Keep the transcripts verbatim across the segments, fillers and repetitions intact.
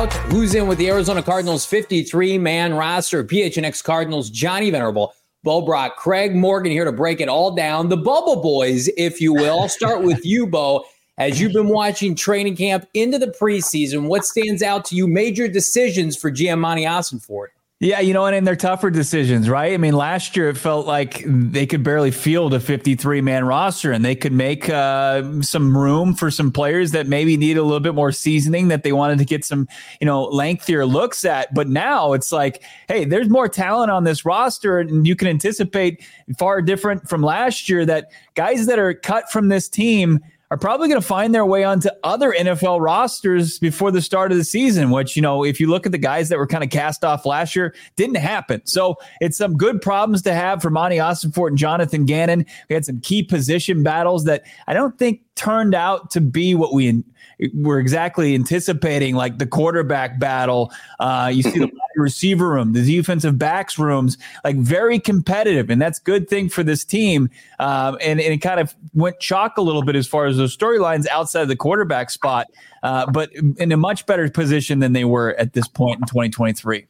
out who's in with the Arizona Cardinals fifty-three man roster. P H N X Cardinals, Johnny Venerable, Bo Brock, Craig Morgan here to break it all down. The Bubble Boys, if you will. I'll start with you, Bo. As you've been watching training camp into the preseason, what stands out to you? Major decisions for G M Monty Ossenfort. Yeah, you know, and, and they're tougher decisions, right? I mean, last year it felt like they could barely field a fifty-three man roster, and they could make uh, some room for some players that maybe need a little bit more seasoning that they wanted to get some, you know, lengthier looks at. But now it's like, hey, there's more talent on this roster, and you can anticipate far different from last year that guys that are cut from this team are probably going to find their way onto other N F L rosters before the start of the season, which, you know, if you look at the guys that were kind of cast off last year, didn't happen. So it's some good problems to have for Monty Ossenfort and Jonathan Gannon. We had some key position battles that I don't think turned out to be what we were exactly anticipating, like the quarterback battle. Uh, you see the receiver room, the defensive backs rooms, like very competitive. And that's a good thing for this team. Um, and, and it kind of went chalk a little bit as far as those storylines outside of the quarterback spot, uh, but in a much better position than they were at this point in twenty twenty-three.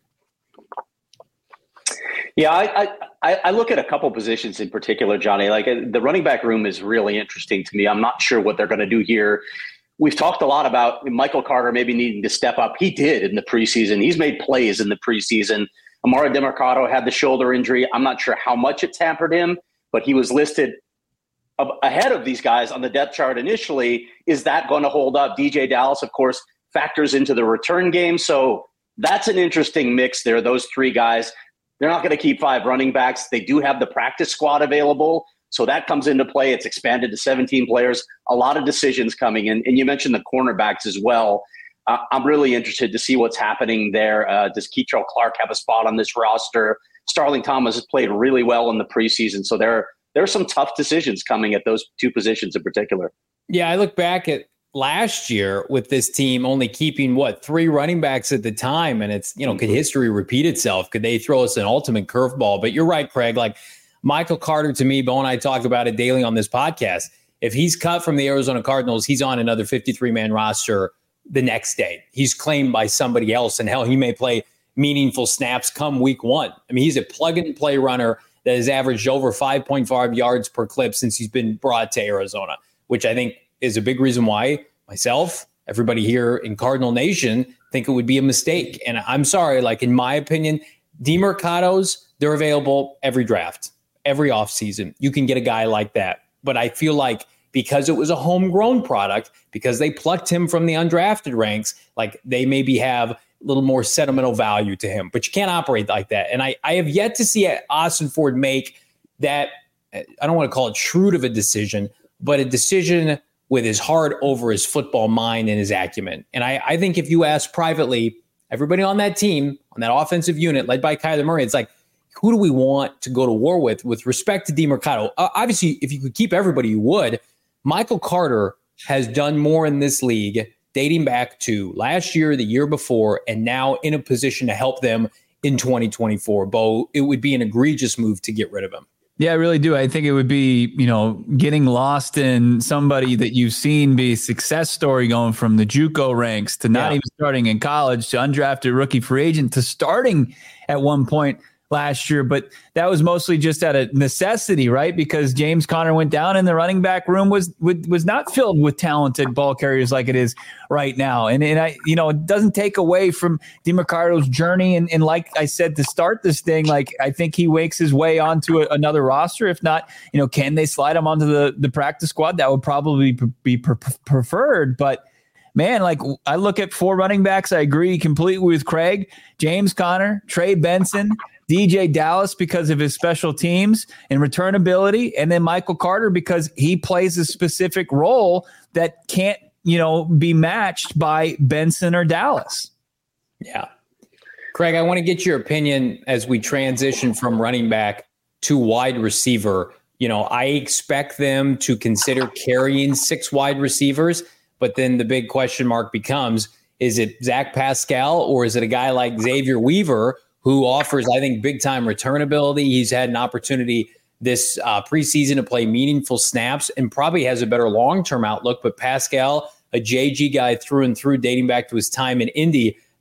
Yeah, I, I, I look at a couple positions in particular, Johnny. Like the running back room is really interesting to me. I'm not sure what they're going to do here. We've talked a lot about Michael Carter maybe needing to step up. He did in the preseason. He's made plays in the preseason. Amari DeMarcado had the shoulder injury. I'm not sure how much it hampered him, but he was listed ahead of these guys on the depth chart initially. Is that going to hold up? D J Dallas, of course, factors into the return game. So that's an interesting mix there, those three guys. They're not going to keep five running backs. They do have the practice squad available. So that comes into play. It's expanded to seventeen players. A lot of decisions coming in. And you mentioned the cornerbacks as well. Uh, I'm really interested to see what's happening there. Uh, does Keitrell Clark have a spot on this roster? Starling Thomas has played really well in the preseason. So there, there are some tough decisions coming at those two positions in particular. Yeah, I look back at last year with this team only keeping, what, three running backs at the time. And it's, you know, could history repeat itself? Could they throw us an ultimate curveball? But you're right, Craig. Like, Michael Carter, to me, Bo and I talk about it daily on this podcast. If he's cut from the Arizona Cardinals, he's on another fifty-three man roster the next day. He's claimed by somebody else, and hell, he may play meaningful snaps come week one. I mean, he's a plug-and-play runner that has averaged over five point five yards per clip since he's been brought to Arizona, which I think is a big reason why myself, everybody here in Cardinal Nation, think it would be a mistake. And I'm sorry, like in my opinion, DeMarcados, they're available every draft. Every offseason, you can get a guy like that. But I feel like because it was a homegrown product, because they plucked him from the undrafted ranks, like they maybe have a little more sentimental value to him. But you can't operate like that. And I, I have yet to see Ossenfort make that, I don't want to call it shrewd of a decision, but a decision with his heart over his football mind and his acumen. And I, I think if you ask privately, everybody on that team, on that offensive unit led by Kyler Murray, it's like, who do we want to go to war with with respect to DeMarcado? Uh, obviously, if you could keep everybody, you would. Michael Carter has done more in this league dating back to last year, the year before, and now in a position to help them in twenty twenty-four. Bo, it would be an egregious move to get rid of him. Yeah, I really do. I think it would be, you know, getting lost in somebody that you've seen be a success story going from the JUCO ranks to not yeah. even starting in college to undrafted rookie free agent to starting at one point last year, but that was mostly just out of necessity, right? Because James Conner went down and the running back room was was not filled with talented ball carriers like it is right now. And, and I, you know, it doesn't take away from DeMarcado's journey. And, and like I said, to start this thing, like I think he wakes his way onto a, another roster. If not, you know, can they slide him onto the, the practice squad? That would probably be pre- preferred, but man, like I look at four running backs. I agree completely with Craig. James Conner, Trey Benson, D J Dallas because of his special teams and return ability, and then Michael Carter because he plays a specific role that can't, you know, be matched by Benson or Dallas. Yeah. Craig, I want to get your opinion as we transition from running back to wide receiver. You know, I expect them to consider carrying six wide receivers, but then the big question mark becomes, is it Zach Pascal or is it a guy like Xavier Weaver who offers, I think, big-time return ability? He's had an opportunity this uh, preseason to play meaningful snaps and probably has a better long-term outlook. But Pascal, a J G guy through and through, dating back to his time in Indy,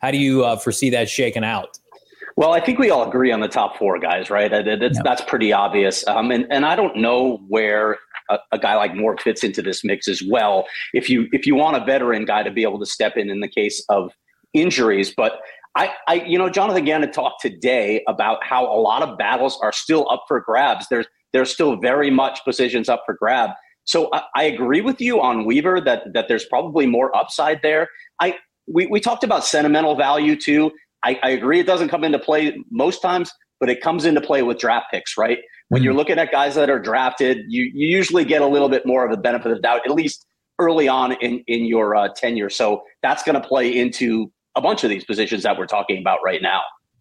How do you uh, foresee that shaking out? Well, I think we all agree on the top four guys, right? That's, yep. that's pretty obvious. Um, and, and I don't know where a, a guy like Moore fits into this mix as well. If you if you want a veteran guy to be able to step in in the case of injuries. But I, I you know, Jonathan Gannon talked today about how a lot of battles are still up for grabs. There's there's still very much positions up for grab. So I, I agree with you on Weaver that that there's probably more upside there. I we, we talked about sentimental value too. I, I agree it doesn't come into play most times, but it comes into play with draft picks, right? When mm-hmm. you're looking at guys that are drafted, you, you usually get a little bit more of the benefit of the doubt, at least early on in, in your uh, tenure. So that's going to play into a bunch of these positions that we're talking about right now.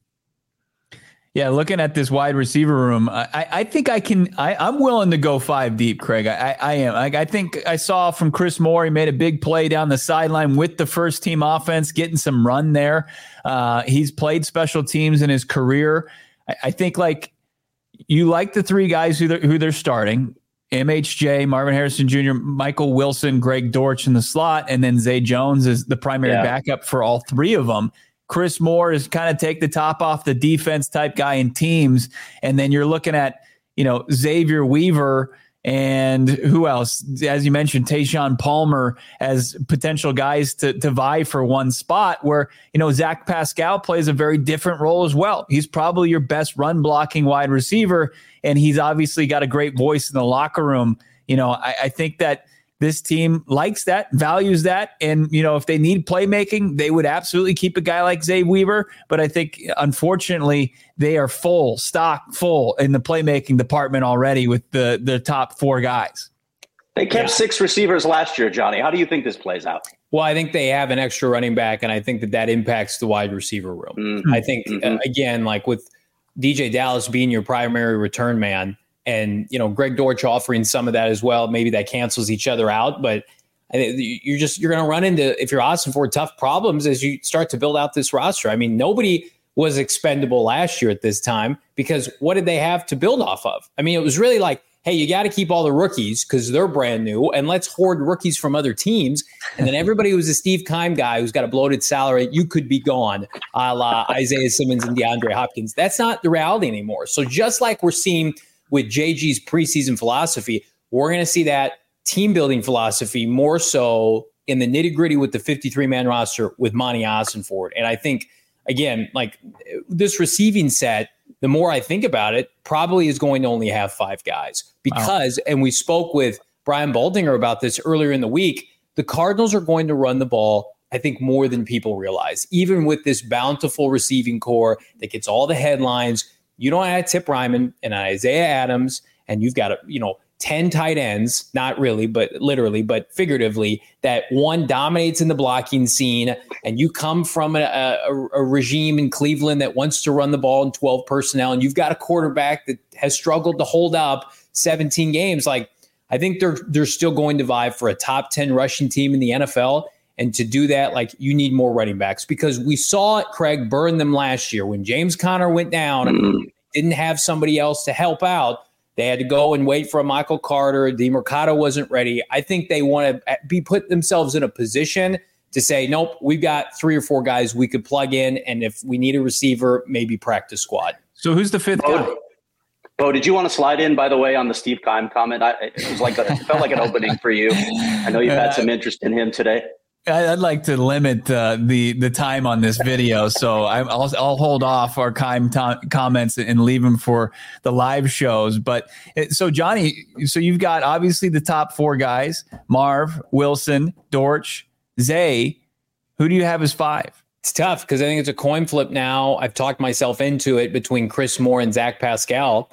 Yeah, looking at this wide receiver room, I, I think I can. I, I'm willing to go five deep, Craig. I, I am. I, I think I saw from Chris Moore, he made a big play down the sideline with the first team offense, getting some run there. Uh, he's played special teams in his career. I, I think like you like the three guys who they're, who they're starting: M H J, Marvin Harrison Junior, Michael Wilson, Greg Dortch in the slot, and then Zay Jones is the primary yeah. backup for all three of them. Chris Moore is kind of take the top off the defense type guy in teams. And then you're looking at, you know, Xavier Weaver and who else? As you mentioned, Tayshaun Palmer as potential guys to, to vie for one spot where, you know, Zach Pascal plays a very different role as well. He's probably your best run blocking wide receiver. And he's obviously got a great voice in the locker room. You know, I, I think that this team likes that, values that. And, you know, if they need playmaking, they would absolutely keep a guy like Zay Weaver. But I think, unfortunately, they are full, stock full in the playmaking department already with the, the top four guys. They kept yeah. six receivers last year, Johnny. How do you think this plays out? Well, I think they have an extra running back, and I think that that impacts the wide receiver room. Mm-hmm. I think, mm-hmm. uh, again, like with D J Dallas being your primary return man, and, you know, Greg Dortch offering some of that as well. Maybe that cancels each other out, but I think you're just, you're going to run into, if you're Austin Ford, tough problems as you start to build out this roster. I mean, nobody was expendable last year at this time because what did they have to build off of? I mean, it was really like, hey, you got to keep all the rookies because they're brand new and let's hoard rookies from other teams. And then everybody who's a Steve Keim guy who's got a bloated salary, you could be gone, a la Isaiah Simmons and DeAndre Hopkins. That's not the reality anymore. So just like we're seeing with J G's preseason philosophy, we're going to see that team building philosophy more so in the nitty gritty with the fifty-three man roster with Monty Ossenfort. And I think, again, like this receiving set, the more I think about it, probably is going to only have five guys because, wow. and we spoke with Brian Baldinger about this earlier in the week, the Cardinals are going to run the ball, I think, more than people realize, even with this bountiful receiving core that gets all the headlines. You don't have Tip Ryman and Isaiah Adams, and you've got, a, you know, ten tight ends, not really, but literally, but figuratively, that one dominates in the blocking scene, and you come from a, a, a regime in Cleveland that wants to run the ball in twelve personnel, and you've got a quarterback that has struggled to hold up seventeen games. Like, I think they're they're still going to vie for a top ten rushing team in the N F L. And to do that, like, you need more running backs because we saw it, Craig, burn them last year. When James Conner went down, mm-hmm. didn't have somebody else to help out. They had to go and wait for a Michael Carter. DeMercado wasn't ready. I think they want to be put themselves in a position to say, nope, we've got three or four guys we could plug in. And if we need a receiver, maybe practice squad. So who's the fifth Bo, guy? Bo, did you want to slide in, by the way, on the Steve Keim comment? I, it was like a, it felt like an opening for you. I know you've had some interest in him today. I'd like to limit uh, the the time on this video, so I, I'll I'll hold off our Keim to- comments and leave them for the live shows. But so Johnny, so you've got obviously the top four guys: Marv, Wilson, Dortch, Zay. Who do you have as five? It's tough because I think it's a coin flip now. I've talked myself into it between Chris Moore and Zach Pascal.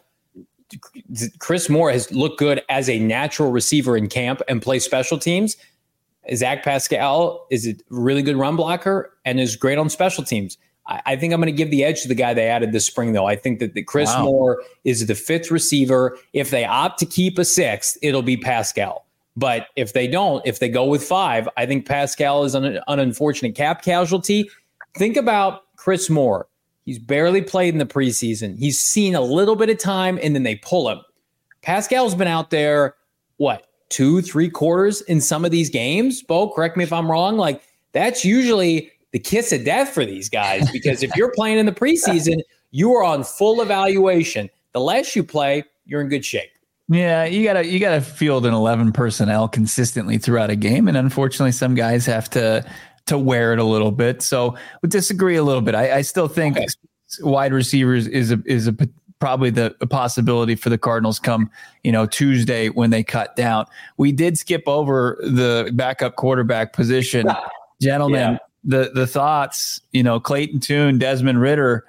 Chris Moore has looked good as a natural receiver in camp and play special teams. Zach Pascal is a really good run blocker and is great on special teams. I, I think I'm going to give the edge to the guy they added this spring, though. I think that the Chris wow. Moore is the fifth receiver. If they opt to keep a sixth, it'll be Pascal. But if they don't, if they go with five, I think Pascal is an, an unfortunate cap casualty. Think about Chris Moore. He's barely played in the preseason. He's seen a little bit of time, and then they pull him. Pascal's been out there, what? two, three quarters in some of these games. Bo, correct me if I'm wrong. Like, that's usually the kiss of death for these guys, because if you're playing in the preseason, you are on full evaluation. The less you play, you're in good shape. Yeah, you gotta you gotta field an eleven personnel consistently throughout a game, and unfortunately, some guys have to to wear it a little bit. So we disagree a little bit. I, I still think okay. wide receivers is a is a probably the a possibility for the Cardinals come you know Tuesday when they cut down. We did skip over the backup quarterback position, gentlemen. Yeah. The the thoughts, you know, Clayton Tune, Desmond Ridder.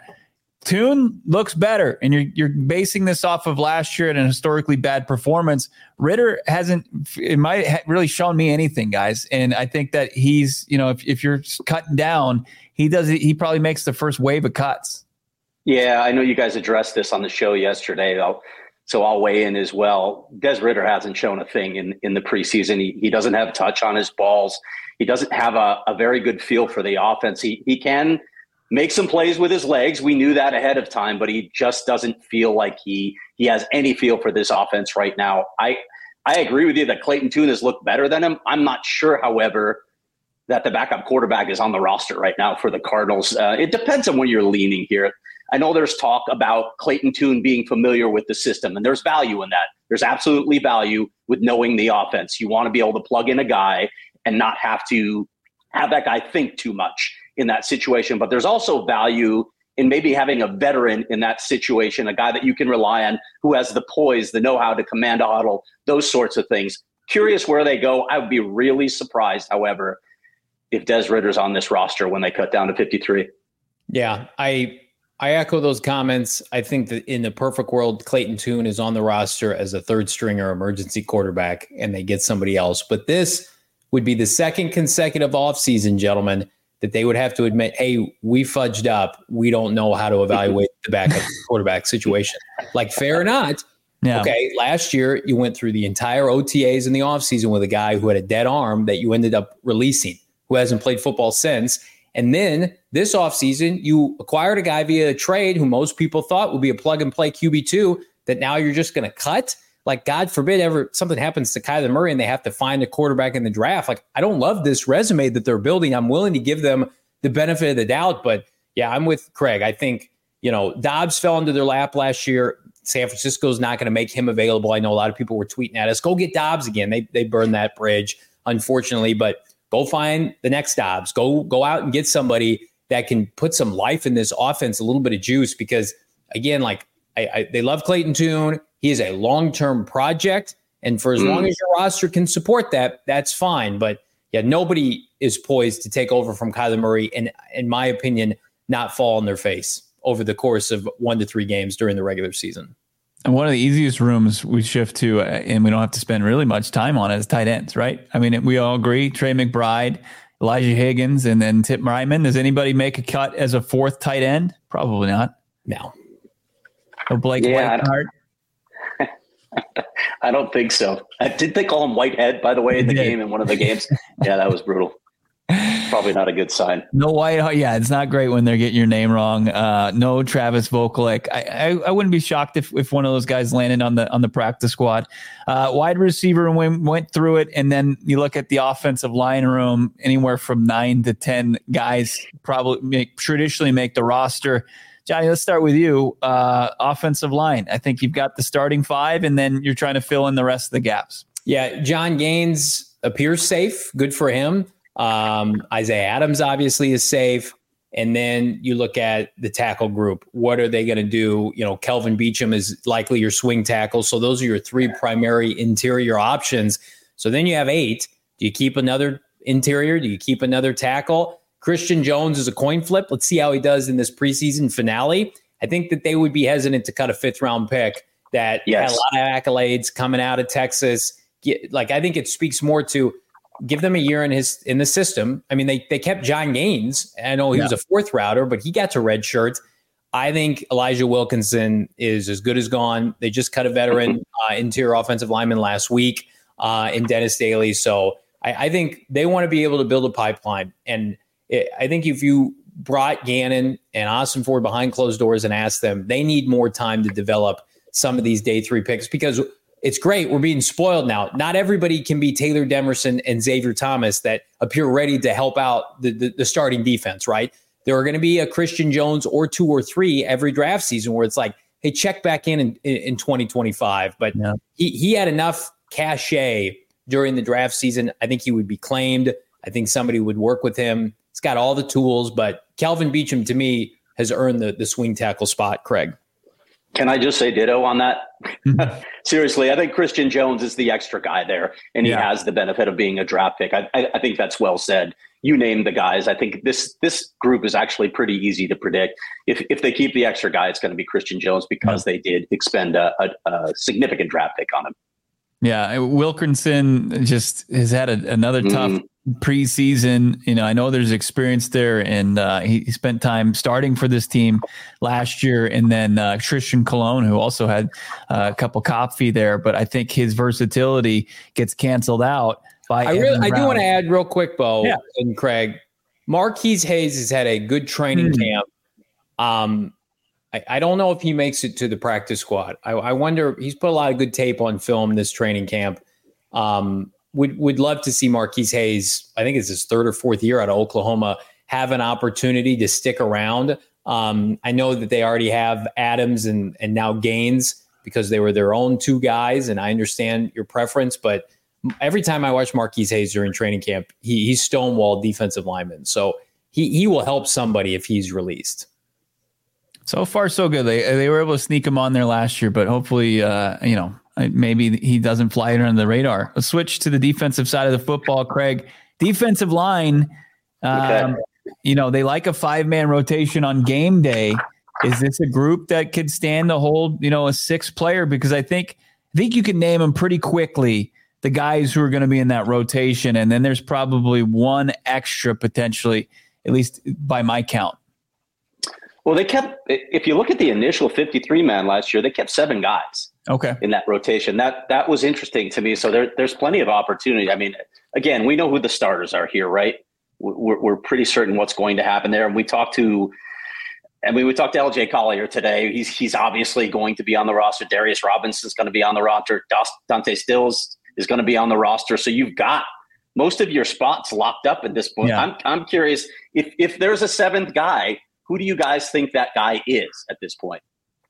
Tune looks better, and you're you're basing this off of last year and a historically bad performance. Ridder hasn't, it might ha- really shown me anything, guys. And I think that he's, you know, if, if you're cutting down, he does it. He probably makes the first wave of cuts. Yeah, I know you guys addressed this on the show yesterday, though, so I'll weigh in as well. Des Ridder hasn't shown a thing in, in the preseason. He he doesn't have touch on his balls. He doesn't have a, a very good feel for the offense. He he can make some plays with his legs. We knew that ahead of time, but he just doesn't feel like he he has any feel for this offense right now. I I agree with you that Clayton Tune has looked better than him. I'm not sure, however, that the backup quarterback is on the roster right now for the Cardinals. Uh, it depends on where you're leaning here. I know there's talk about Clayton Tune being familiar with the system, and there's value in that. There's absolutely value with knowing the offense. You want to be able to plug in a guy and not have to have that guy think too much in that situation. But there's also value in maybe having a veteran in that situation, a guy that you can rely on who has the poise, the know-how to command a huddle, those sorts of things. Curious where they go. I would be really surprised, however, if Des Ridder's on this roster when they cut down to fifty-three. Yeah, I I echo those comments. I think that in the perfect world, Clayton Tune is on the roster as a third stringer emergency quarterback and they get somebody else. But this would be the second consecutive offseason, gentlemen, that they would have to admit, hey, we fudged up. We don't know how to evaluate the backup quarterback situation. Like, fair or not. Yeah. Okay, last year you went through the entire O T As in the offseason with a guy who had a dead arm that you ended up releasing, who hasn't played football since. And then this offseason, you acquired a guy via a trade who most people thought would be a plug-and-play Q B two that now you're just going to cut. Like, God forbid ever something happens to Kyler Murray and they have to find a quarterback in the draft. Like, I don't love this resume that they're building. I'm willing to give them the benefit of the doubt. But, yeah, I'm with Craig. I think, you know, Dobbs fell into their lap last year. San Francisco's not going to make him available. I know a lot of people were tweeting at us, go get Dobbs again. They they burned that bridge, unfortunately. But go find the next Dobbs. Go, go out and get somebody that can put some life in this offense, a little bit of juice. Because, again, like, I, I, they love Clayton Tune. He is a long-term project, and for as mm. long as your roster can support that, that's fine. But, yeah, nobody is poised to take over from Kyler Murray and, in my opinion, not fall on their face over the course of one to three games during the regular season. And one of the easiest rooms we shift to, uh, and we don't have to spend really much time on it, is tight ends, right? I mean, we all agree, Trey McBride, Elijah Higgins, and then Tip Ryman. Does anybody make a cut as a fourth tight end? Probably not. No. No Blake yeah, Whiteheart? I don't think so. I did they call him Whitehead, by the way, in the game, in one of the games? Yeah, that was brutal. Probably not a good sign. No Whiteheart. Yeah, it's not great when they're getting your name wrong. Uh, no Travis Vokolek. I, I I wouldn't be shocked if if one of those guys landed on the on the practice squad. Uh, wide receiver, and we went through it, and then you look at the offensive line room. Anywhere from nine to ten guys probably make traditionally make the roster. Johnny, let's start with you. Uh, offensive line. I think you've got the starting five, and then you're trying to fill in the rest of the gaps. Yeah, John Gaines appears safe. Good for him. Um, Isaiah Adams obviously is safe. And then you look at the tackle group. What are they going to do? You know, Kelvin Beachum is likely your swing tackle. So those are your three primary interior options. So then you have eight. Do you keep another interior? Do you keep another tackle? Christian Jones is a coin flip. Let's see how he does in this preseason finale. I think that they would be hesitant to cut a fifth round pick that yes. had a lot of accolades coming out of Texas. Get, like, I think it speaks more to give them a year in his in the system. I mean, they they kept John Gaines. I know he yeah. was a fourth router, but he got to red shirt. I think Elijah Wilkinson is as good as gone. They just cut a veteran uh, interior offensive lineman last week uh, in Dennis Daly. So I, I think they want to be able to build a pipeline. And it, I think if you brought Gannon and Austin Ford behind closed doors and asked them, they need more time to develop some of these day three picks, because it's great. We're being spoiled now. Not everybody can be Taylor Demerson and Xavier Thomas that appear ready to help out the, the, the starting defense, right? There are going to be a Christian Jones or two or three every draft season where it's like, hey, check back in in, in twenty twenty-five. But yeah. he, he had enough cachet during the draft season. I think he would be claimed. I think somebody would work with him. He's got all the tools, but Kelvin Beachum, to me, has earned the, the swing tackle spot, Craig. Can I just say ditto on that? Seriously, I think Christian Jones is the extra guy there, and he yeah. has the benefit of being a draft pick. I, I, I think that's well said. You named the guys. I think this this group is actually pretty easy to predict. If if they keep the extra guy, it's going to be Christian Jones because yeah. they did expend a, a, a significant draft pick on him. Yeah, Wilkinson just has had a, another tough mm. preseason. You know, I know there's experience there, and uh, he, he spent time starting for this team last year. And then uh, Tristan Colon, who also had uh, a couple cop fee there, but I think his versatility gets canceled out by. I really, I do want to add real quick, Bo yeah. and Craig. Marquise Hayes has had a good training mm. camp. Um, I, I don't know if he makes it to the practice squad. I, I wonder. He's put a lot of good tape on film this training camp. Um, Would would love to see Marquise Hayes, I think it's his third or fourth year out of Oklahoma, have an opportunity to stick around. Um, I know that they already have Adams and and now Gaines because they were their own two guys, and I understand your preference. But every time I watch Marquise Hayes during training camp, he, he's stonewalled defensive lineman. So he he will help somebody if he's released. So far, so good. They they were able to sneak him on there last year, but hopefully, uh, you know, maybe he doesn't fly under the radar. Let's switch to the defensive side of the football, Craig. Defensive line, um, okay. you know, they like a five-man rotation on game day. Is this a group that could stand to hold, you know, a sixth player? Because I think I think you can name them pretty quickly, the guys who are going to be in that rotation, and then there's probably one extra potentially, at least by my count. Well, they kept, if you look at the initial fifty-three man last year, they kept seven guys okay. in that rotation. That that was interesting to me. So there, there's plenty of opportunity. I mean, again, we know who the starters are here, right? We're, we're pretty certain what's going to happen there. And we talked to, I mean, we talked to L J Collier today. He's he's obviously going to be on the roster. Darius Robinson is going to be on the roster. Dante Stills is going to be on the roster. So you've got most of your spots locked up at this point. Yeah. I'm I'm curious if if there's a seventh guy. Who do you guys think that guy is at this point?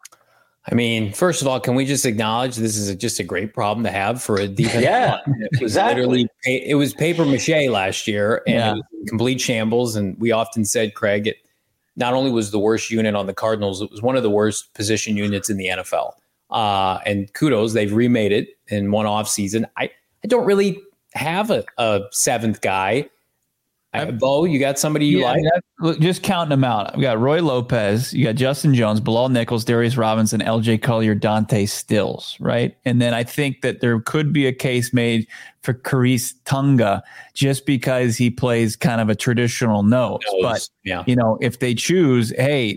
I mean, first of all, can we just acknowledge this is a, just a great problem to have for a defense? Yeah, it was exactly. Literally, it was paper mache last year, and yeah. it was complete shambles. And we often said, Craig, it not only was the worst unit on the Cardinals, it was one of the worst position units in the N F L. Uh, and kudos, they've remade it in one off season. I, I don't really have a, a seventh guy. I, Bo, you got somebody you yeah, like? Just counting them out. We got Roy Lopez, you got Justin Jones, Bilal Nichols, Darius Robinson, L J Collier, Dante Stills, right? And then I think that there could be a case made for Khyiris Tonga just because he plays kind of a traditional nose. nose. But, yeah. you know, if they choose, hey,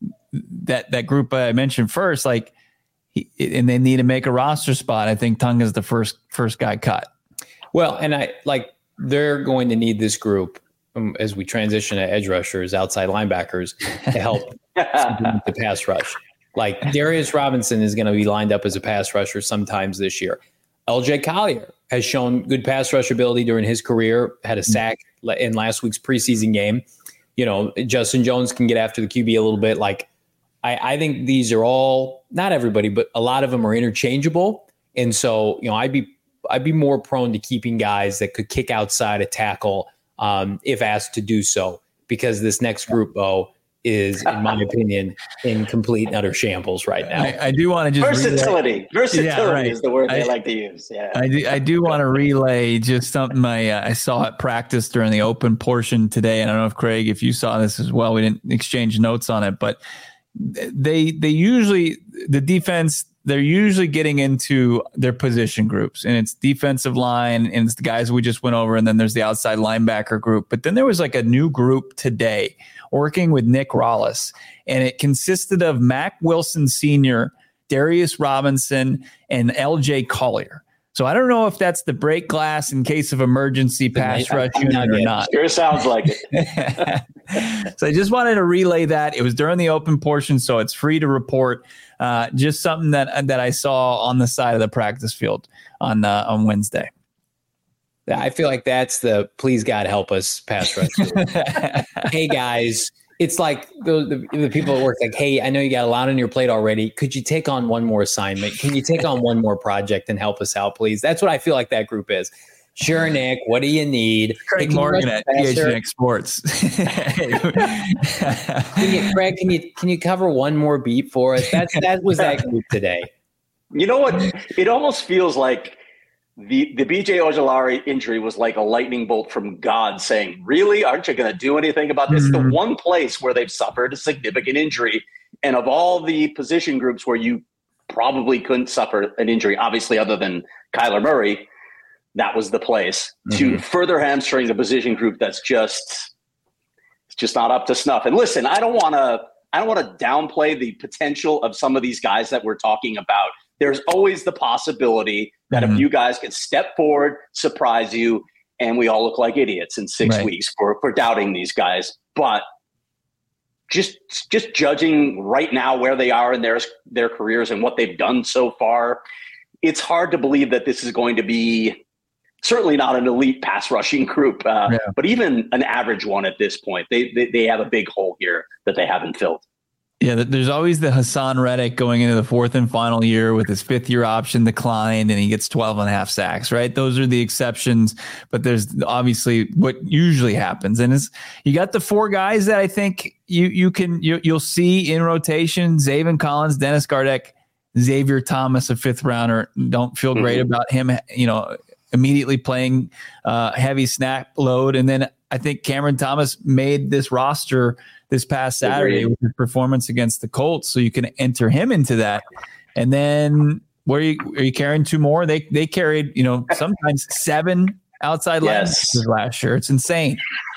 that, that group I mentioned first, like, he, and they need to make a roster spot, I think Tonga's the first first guy cut. Well, and I like, they're going to need this group um, as we transition to edge rushers, outside linebackers to help the pass rush. Like Darius Robinson is going to be lined up as a pass rusher sometimes this year. L J Collier has shown good pass rush ability during his career, had a sack in last week's preseason game. You know, Justin Jones can get after the Q B a little bit. Like I, I think these are all, not everybody, but a lot of them are interchangeable. And so, you know, I'd be I'd be more prone to keeping guys that could kick outside a tackle um, if asked to do so, because this next group, Bo, is, in my opinion, in complete and utter shambles right now. I, I do want to just versatility. Relay. Versatility yeah, right. is the word they I, like to use. Yeah, I do. I do want to relay just something I uh, I saw at practice during the open portion today, and I don't know if Craig, if you saw this as well. We didn't exchange notes on it, but they they usually the defense. They're usually getting into their position groups, and it's defensive line and it's the guys we just went over. And then there's the outside linebacker group. But then there was like a new group today working with Nick Rollis, and it consisted of Mack Wilson Senior, Darius Robinson, and L J Collier. So I don't know if that's the break glass in case of emergency pass rush unit or not. Sure sounds like it. So I just wanted to relay that. It was during the open portion, so it's free to report. Uh, just something that that I saw on the side of the practice field on uh, on Wednesday. I feel like that's the please God help us pass rush. Hey guys, it's like the, the the people at work like, hey, I know you got a lot on your plate already. Could you take on one more assignment? Can you take on one more project and help us out, please? That's what I feel like that group is. Sure, Nick. What do you need? Craig hey, Morgan at P H N X Sports. can you, Craig, can you can you cover one more beat for us? That's that was that group today. You know what? It almost feels like the the B J Ojulari injury was like a lightning bolt from God, saying, "Really? Aren't you going to do anything about this?" Mm-hmm. The one place where they've suffered a significant injury, and of all the position groups where you probably couldn't suffer an injury, obviously, other than Kyler Murray. That was the place mm-hmm. to further hamstring the position group that's just it's just not up to snuff. And listen, I don't want to I don't want to downplay the potential of some of these guys that we're talking about. There's always the possibility that mm-hmm. a few guys can step forward, surprise you, and we all look like idiots in six right. weeks for, for doubting these guys. But just just judging right now where they are in their their careers and what they've done so far, it's hard to believe that this is going to be certainly not an elite pass rushing group, uh, yeah. but even an average one at this point. They, they they have a big hole here that they haven't filled. Yeah, there's always the Hassan Reddick going into the fourth and final year with his fifth year option declined and he gets twelve and a half sacks, right? Those are the exceptions, but there's obviously what usually happens. And it's, you got the four guys that I think you you can, you, you'll see in rotation: Zaven Collins, Dennis Gardeck, Xavier Thomas, a fifth rounder. Don't feel great mm-hmm. about him, you know, immediately playing uh, heavy snap load. And then I think Cameron Thomas made this roster this past Saturday with his performance against the Colts. So you can enter him into that. And then where are you, are you carrying two more? They they carried, you know, sometimes seven outside yes. linebackers last year. It's insane.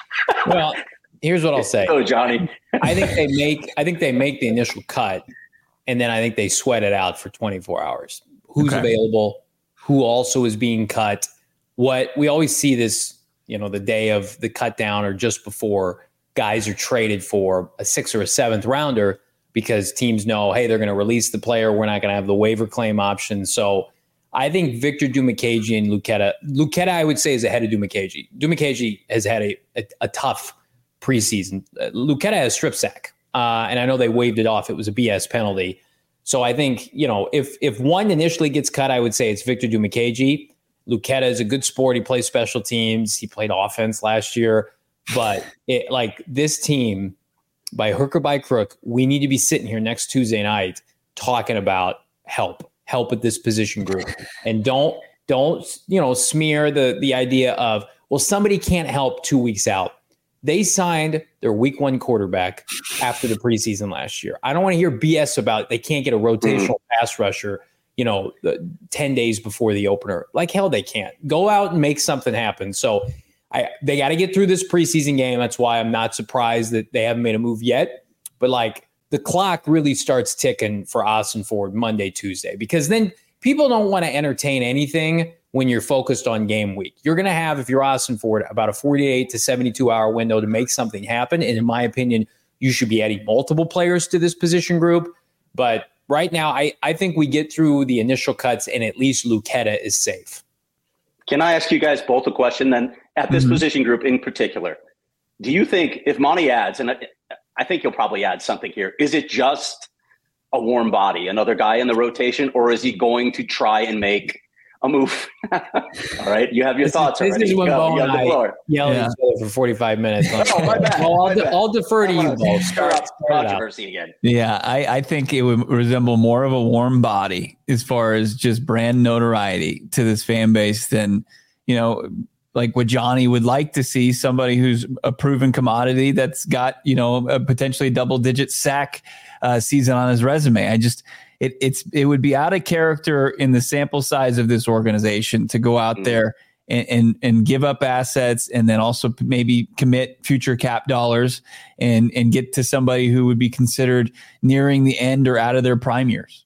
Well, here's what I'll say. Oh, Johnny. I think they make I think they make the initial cut, and then I think they sweat it out for twenty-four hours. Who's okay. available? Who also is being cut? What we always see this, you know, the day of the cut down or just before guys are traded for a sixth or a seventh rounder because teams know, hey, they're going to release the player. We're not going to have the waiver claim option. So I think Victor Dimukeje and Luketa, Luketa, I would say, is ahead of Dimukeje. Dimukeje has had a, a, a tough preseason. Uh, Luketa has strip sack, uh, and I know they waived it off. It was a B S penalty. So I think, you know, if if one initially gets cut, I would say it's Victor Dimukeje. Luketa is a good sport. He plays special teams. He played offense last year. But it, like this team, by hook or by crook, we need to be sitting here next Tuesday night talking about help, help at this position group. And don't, don't, you know, smear the the idea of, well, somebody can't help two weeks out. They signed their week one quarterback after the preseason last year. I don't want to hear B S about they can't get a rotational mm-hmm. pass rusher, you know, ten days before the opener. Like hell, they can't. Go out and make something happen. So I, they got to get through this preseason game. That's why I'm not surprised that they haven't made a move yet. But like the clock really starts ticking for Austin Ford Monday, Tuesday, because then people don't want to entertain anything when you're focused on game week. You're going to have, if you're Austin Ford, about a forty-eight to seventy-two hour window to make something happen. And in my opinion, you should be adding multiple players to this position group. But right now, I, I think we get through the initial cuts and at least Luketa is safe. Can I ask you guys both a question then? At this mm-hmm. position group in particular, do you think if Monty adds, and I, I think he'll probably add something here, is it just a warm body, another guy in the rotation, or is he going to try and make a move? All right, you have your this thoughts is, already. This is when Go. Bo and I yelled yeah. at each other for forty-five minutes. oh, my bad. Well, I'll, my de- bad. I'll defer to you, Bo. Start, controversy again. Yeah, I, I think it would resemble more of a warm body as far as just brand notoriety to this fan base than, you know, like what Johnny would like to see, somebody who's a proven commodity that's got, you know, a potentially double digit sack uh, season on his resume. I just, it, it's, it would be out of character in the sample size of this organization to go out mm. there and, and, and give up assets and then also maybe commit future cap dollars and, and get to somebody who would be considered nearing the end or out of their prime years.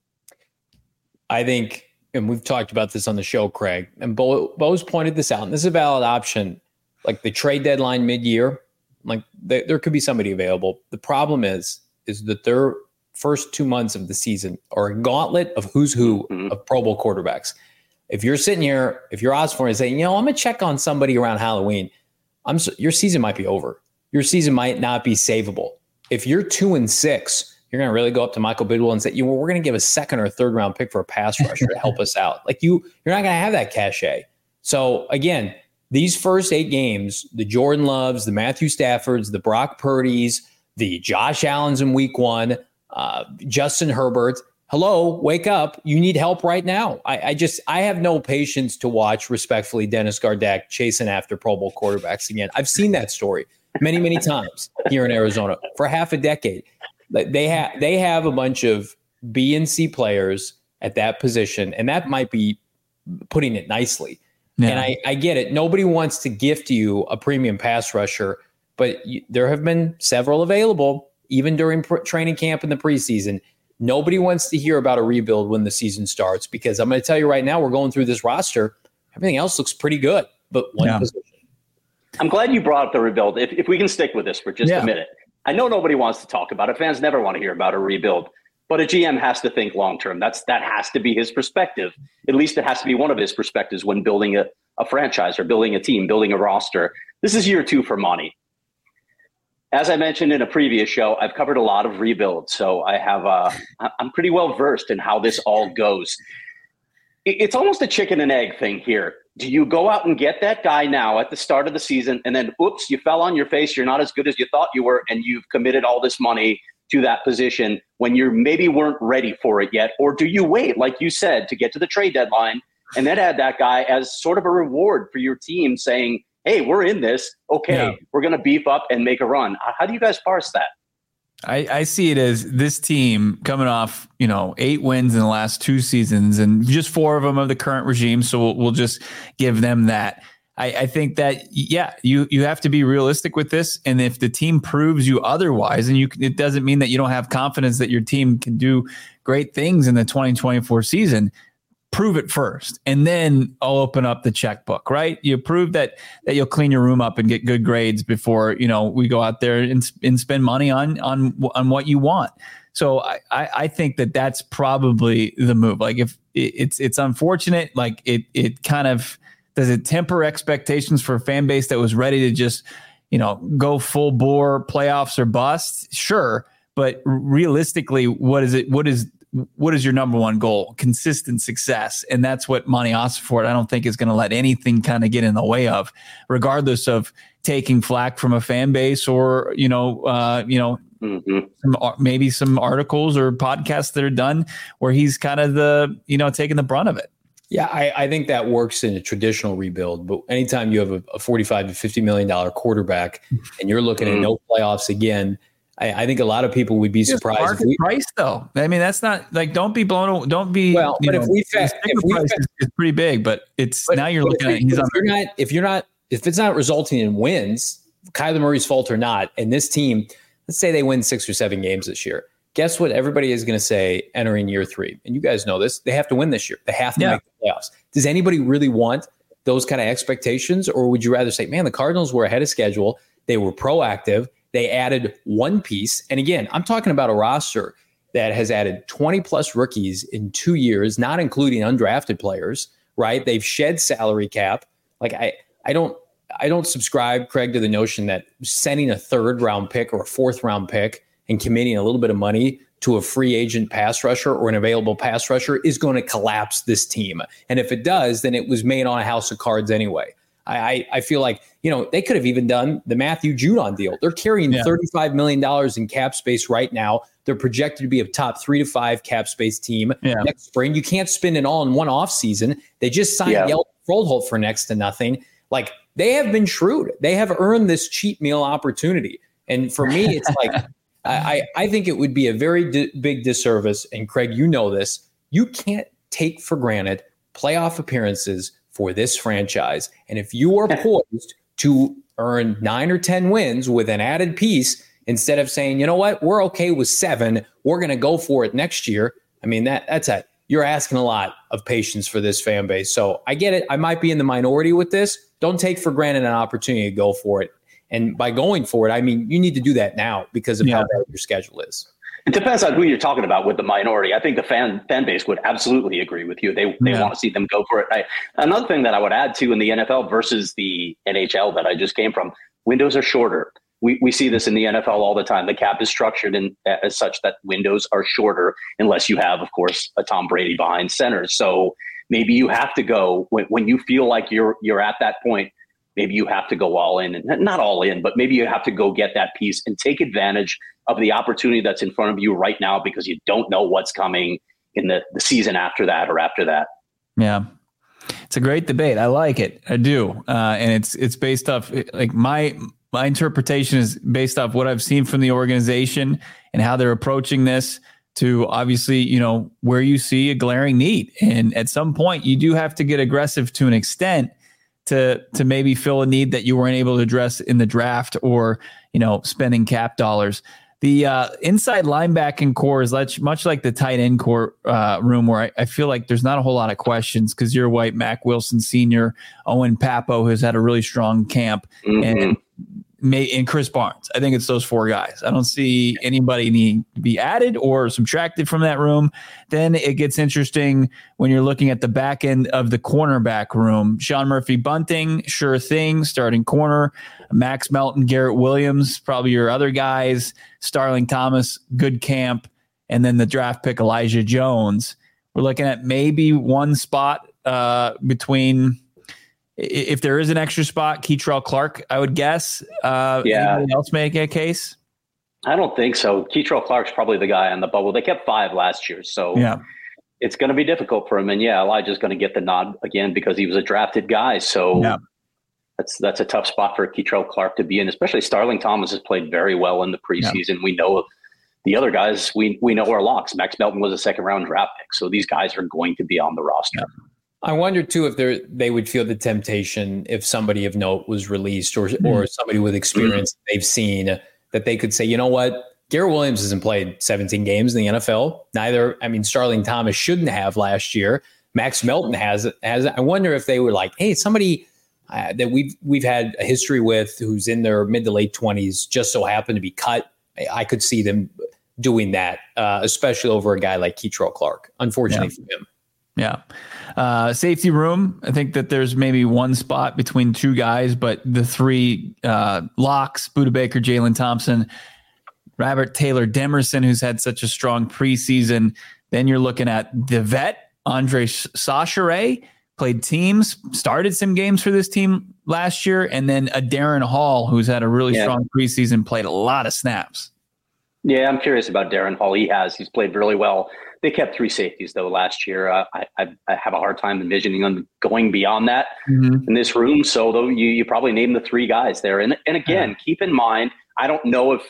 I think, and we've talked about this on the show, Craig, and Bo, Bo's pointed this out, and this is a valid option. Like the trade deadline mid-year, Like they, there could be somebody available. The problem is, is that their first two months of the season are a gauntlet of who's who mm-hmm. of Pro Bowl quarterbacks. If you're sitting here, if you're Osborne and saying, you know, I'm going to check on somebody around Halloween, I'm so, your season might be over. Your season might not be savable. If you're two and six, you're going to really go up to Michael Bidwell and say, you know, we're going to give a second or third round pick for a pass rusher to help us out. Like you, you're not going to have that cachet. So again, these first eight games, the Jordan Loves, the Matthew Staffords, the Brock Purdy's, the Josh Allens in week one, uh, Justin Herbert. Hello, wake up. You need help right now. I, I just, I have no patience to watch, respectfully, Dennis Gardeck chasing after Pro Bowl quarterbacks again. I've seen that story many, many times here in Arizona for half a decade. They have they have a bunch of B and C players at that position, and that might be putting it nicely. Yeah. And I, I get it. Nobody wants to gift you a premium pass rusher, but you, there have been several available, even during pr- training camp in the preseason. Nobody wants to hear about a rebuild when the season starts, because I'm going to tell you right now, we're going through this roster. Everything else looks pretty good, but one yeah. position. I'm glad you brought up the rebuild. If, if we can stick with this for just yeah. a minute. I know nobody wants to talk about it. Fans never want to hear about a rebuild, but a G M has to think long-term. That's, that has to be his perspective. At least it has to be one of his perspectives when building a, a franchise or building a team, building a roster. This is year two for Monty. As I mentioned in a previous show, I've covered a lot of rebuilds. So I have, uh, I'm pretty well versed in how this all goes. It's almost a chicken and egg thing here. Do you go out and get that guy now at the start of the season, and then, oops, you fell on your face, you're not as good as you thought you were, and you've committed all this money to that position when you maybe weren't ready for it yet? Or do you wait, like you said, to get to the trade deadline and then add that guy as sort of a reward for your team saying, hey, we're in this. Okay, yeah. we're going to beef up and make a run. How do you guys parse that? I, I see it as this team coming off, you know, eight wins in the last two seasons and just four of them of the current regime. So we'll, we'll just give them that. I, I think that, yeah, you, you have to be realistic with this. And if the team proves you otherwise, and you it doesn't mean that you don't have confidence that your team can do great things in the twenty twenty-four season. Prove it first, and then I'll open up the checkbook, right? You prove that that you'll clean your room up and get good grades before, you know, we go out there and, and spend money on on on what you want. So I, I think that that's probably the move. Like if it's it's unfortunate, like it it kind of does it temper expectations for a fan base that was ready to just, you know, go full bore playoffs or bust? Sure, but realistically, what is it? What is What is your number one goal? Consistent success. And that's what Monty Ossenfort, I don't think, is going to let anything kind of get in the way of, regardless of taking flack from a fan base or, you know, uh, you know, mm-hmm. some, maybe some articles or podcasts that are done where he's kind of the, you know, taking the brunt of it. Yeah, I, I think that works in a traditional rebuild. But anytime you have a, a forty-five to fifty million dollars quarterback and you're looking mm-hmm. at no playoffs again, I, I think a lot of people would be surprised. Market if we, price, though. I mean, that's not like don't be blown. Don't be. Well, but know, if we fa- if we price fa- is, is pretty big, but it's but, now you're looking at. If, if you're not, if you're not, if it's not resulting in wins, Kyler Murray's fault or not, and this team, let's say they win six or seven games this year. Guess what? Everybody is going to say entering year three, and you guys know this. They have to win this year. They have to yeah. make the playoffs. Does anybody really want those kind of expectations, or would you rather say, man, the Cardinals were ahead of schedule. They were proactive. They added one piece. And again, I'm talking about a roster that has added twenty plus rookies in two years, not including undrafted players, right? They've shed salary cap. Like I, I don't, I don't subscribe, Craig, to the notion that sending a third round pick or a fourth round pick and committing a little bit of money to a free agent pass rusher or an available pass rusher is going to collapse this team. And if it does, then it was made on a house of cards anyway. I, I feel like, you know, they could have even done the Matthew Judon deal. They're carrying yeah. thirty-five million dollars in cap space right now. They're projected to be a top three to five cap space team yeah. next spring. You can't spend it all in one off season. They just signed yeah. Yeldon Froholt for next to nothing. Like they have been shrewd. They have earned this cheat meal opportunity. And for me, it's like, I, I think it would be a very di- big disservice. And Craig, you know this, you can't take for granted playoff appearances for this franchise. And if you are poised to earn nine or ten wins with an added piece, instead of saying, you know what, we're okay with seven, we're going to go for it next year. I mean, that that's a, you're asking a lot of patience for this fan base. So I get it. I might be in the minority with this. Don't take for granted an opportunity to go for it. And by going for it, I mean, you need to do that now because of yeah. how bad your schedule is. It depends on who you're talking about with the minority. I think the fan fan base would absolutely agree with you. They they yeah. want to see them go for it. I, another thing that I would add to in the N F L versus the N H L that I just came from, windows are shorter. We we see this in the N F L all the time. The cap is structured in, as such that windows are shorter unless you have, of course, a Tom Brady behind center. So maybe you have to go when, when you feel like you're you're at that point. Maybe you have to go all in, and not all in, but maybe you have to go get that piece and take advantage of the opportunity that's in front of you right now because you don't know what's coming in the, the season after that or after that. Yeah. It's a great debate. I like it. I do. Uh, and it's, it's based off like my, my interpretation is based off what I've seen from the organization and how they're approaching this to obviously, you know, where you see a glaring need. And at some point you do have to get aggressive to an extent to to maybe fill a need that you weren't able to address in the draft or, you know, spending cap dollars. The uh, inside linebacking core is much, much like the tight end core uh, room where I, I feel like there's not a whole lot of questions because you're White, Mac Wilson Senior, Owen Papo, who's had a really strong camp, mm-hmm. and May, and Chris Barnes. I think it's those four guys. I don't see anybody need to be added or subtracted from that room. Then it gets interesting when you're looking at the back end of the cornerback room. Sean Murphy Bunting, sure thing, starting corner. Max Melton, Garrett Williams, probably your other guys. Starling Thomas, good camp. And then the draft pick, Elijah Jones. We're looking at maybe one spot uh, between... If there is an extra spot, Keitrell Clark, I would guess. Uh, yeah. Anybody else make a case? I don't think so. Keitrell Clark's probably the guy on the bubble. They kept five last year, so yeah. it's going to be difficult for him. And yeah, Elijah's going to get the nod again because he was a drafted guy. So yeah. that's that's a tough spot for Keitrell Clark to be in. Especially Starling Thomas has played very well in the preseason. Yeah. We know of the other guys. We we know are locks. Max Melton was a second round draft pick, so these guys are going to be on the roster. Yeah. I wonder too if they they would feel the temptation if somebody of note was released or mm. or somebody with experience mm. they've seen that they could say, you know what, Garrett Williams hasn't played seventeen games in the N F L. Neither, I mean, Starling Thomas shouldn't have last year. Max Melton has has. I wonder if they were like, hey, somebody uh, that we've we've had a history with who's in their mid to late twenties just so happened to be cut. I, I could see them doing that, uh, especially over a guy like Keitrell Clark. Unfortunately yeah. for him. Yeah. Uh, safety room. I think that there's maybe one spot between two guys, but the three uh, locks, Budda Baker, Jalen Thompson, Robert Taylor Demerson, who's had such a strong preseason. Then you're looking at the vet, Andre Chachere, played teams, started some games for this team last year. And then a Darren Hall, who's had a really yeah. strong preseason, played a lot of snaps. Yeah, I'm curious about Darren Hall. He has. He's played really well. They kept three safeties, though, last year. Uh, I, I, I have a hard time envisioning them going beyond that mm-hmm. in this room. So, though, you, you probably name the three guys there. And, and again, yeah. keep in mind, I don't know if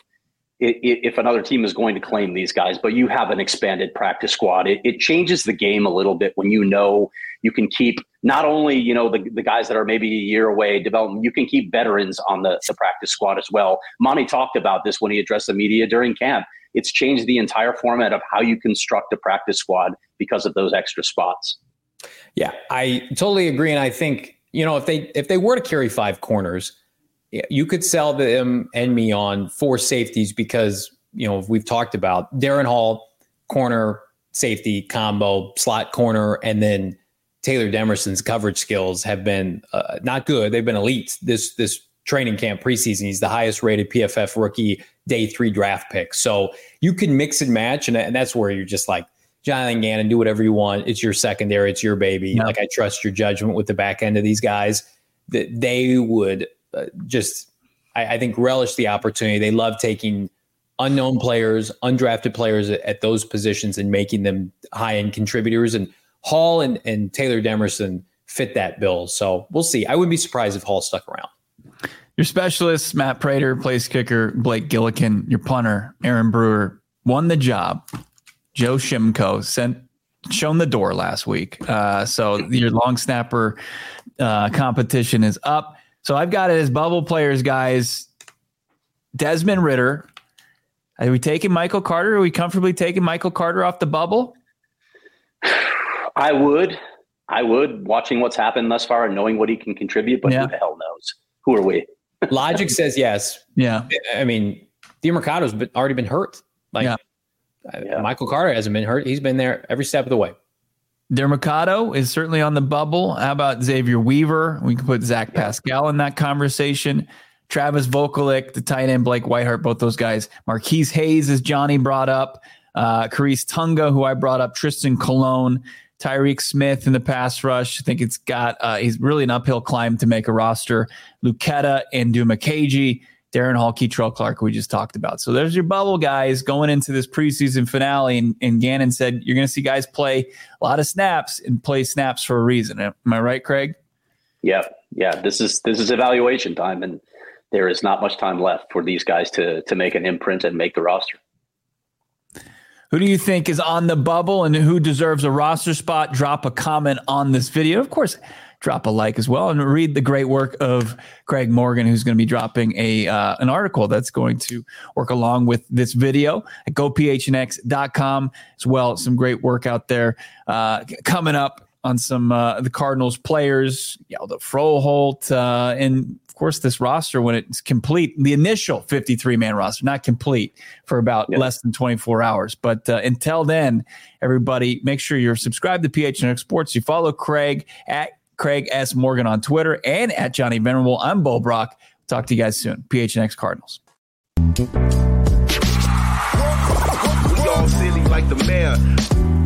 if another team is going to claim these guys, but you have an expanded practice squad. It, it changes the game a little bit when you know you can keep not only, you know, the, the guys that are maybe a year away development, you can keep veterans on the, the practice squad as well. Monty talked about this when he addressed the media during camp. It's changed the entire format of how you construct a practice squad because of those extra spots. Yeah, I totally agree. And I think, you know, if they if they were to carry five corners, you could sell them and me on four safeties because, you know, we've talked about Darren Hall, corner, safety, combo, slot corner, and then Taylor Demerson's coverage skills have been uh, not good. They've been elite this this training camp preseason. He's the highest rated P F F rookie day three draft pick. So you can mix and match, and, and that's where you're just like, Jonathan Gannon, do whatever you want. It's your secondary. It's your baby. Yeah. Like, I trust your judgment with the back end of these guys. That they would uh, just, I, I think, relish the opportunity. They love taking unknown players, undrafted players at, at those positions and making them high-end contributors. And Hall and, and Taylor Demerson fit that bill. So we'll see. I wouldn't be surprised if Hall stuck around. Your specialists, Matt Prater, place kicker, Blake Gillikin, your punter, Aaron Brewer, won the job. Joe Shimko sent shown the door last week. Uh, so your long snapper uh, competition is up. So I've got it as bubble players, guys. Desmond Ridder. Are we taking Michael Carter? Are we comfortably taking Michael Carter off the bubble? I would. I would, watching what's happened thus far and knowing what he can contribute, but yeah. who the hell knows? Who are we? Logic says yes. Yeah. I mean, DeMercado's been, already been hurt. Like yeah. Yeah. Michael Carter hasn't been hurt. He's been there every step of the way. DeMercado is certainly on the bubble. How about Xavier Weaver? We can put Zach Pascal in that conversation. Travis Vokalek, the tight end, Blake Whiteheart, both those guys. Marquise Hayes, as Johnny brought up. Uh, Carice Tunga, who I brought up. Tristan Colon. Tyreek Smith in the pass rush. I think it's got, uh, he's really an uphill climb to make a roster. Luketa and Duma Keji. Darren Hall, Keitrell Clark, we just talked about. So there's your bubble guys going into this preseason finale. And, and Gannon said, you're going to see guys play a lot of snaps and play snaps for a reason. Am I right, Craig? Yeah. Yeah. This is, this is evaluation time, and there is not much time left for these guys to, to make an imprint and make the roster. Who do you think is on the bubble and who deserves a roster spot? Drop a comment on this video. Of course, drop a like as well, and read the great work of Craig Morgan, who's going to be dropping a uh, an article that's going to work along with this video at go p h n x dot com as well. Some great work out there uh, coming up on some uh, the Cardinals players, Yalda Froholt, uh, and of course this roster when it's complete, the initial fifty-three man roster, not complete for about yeah. less than twenty-four hours. But uh, until then, everybody, make sure you're subscribed to P H N X Sports. You follow Craig at Craig S. Morgan on Twitter and at Johnny Venerable. I'm Bo Brock. Talk to you guys soon. P H N X Cardinals. We all silly like the mayor.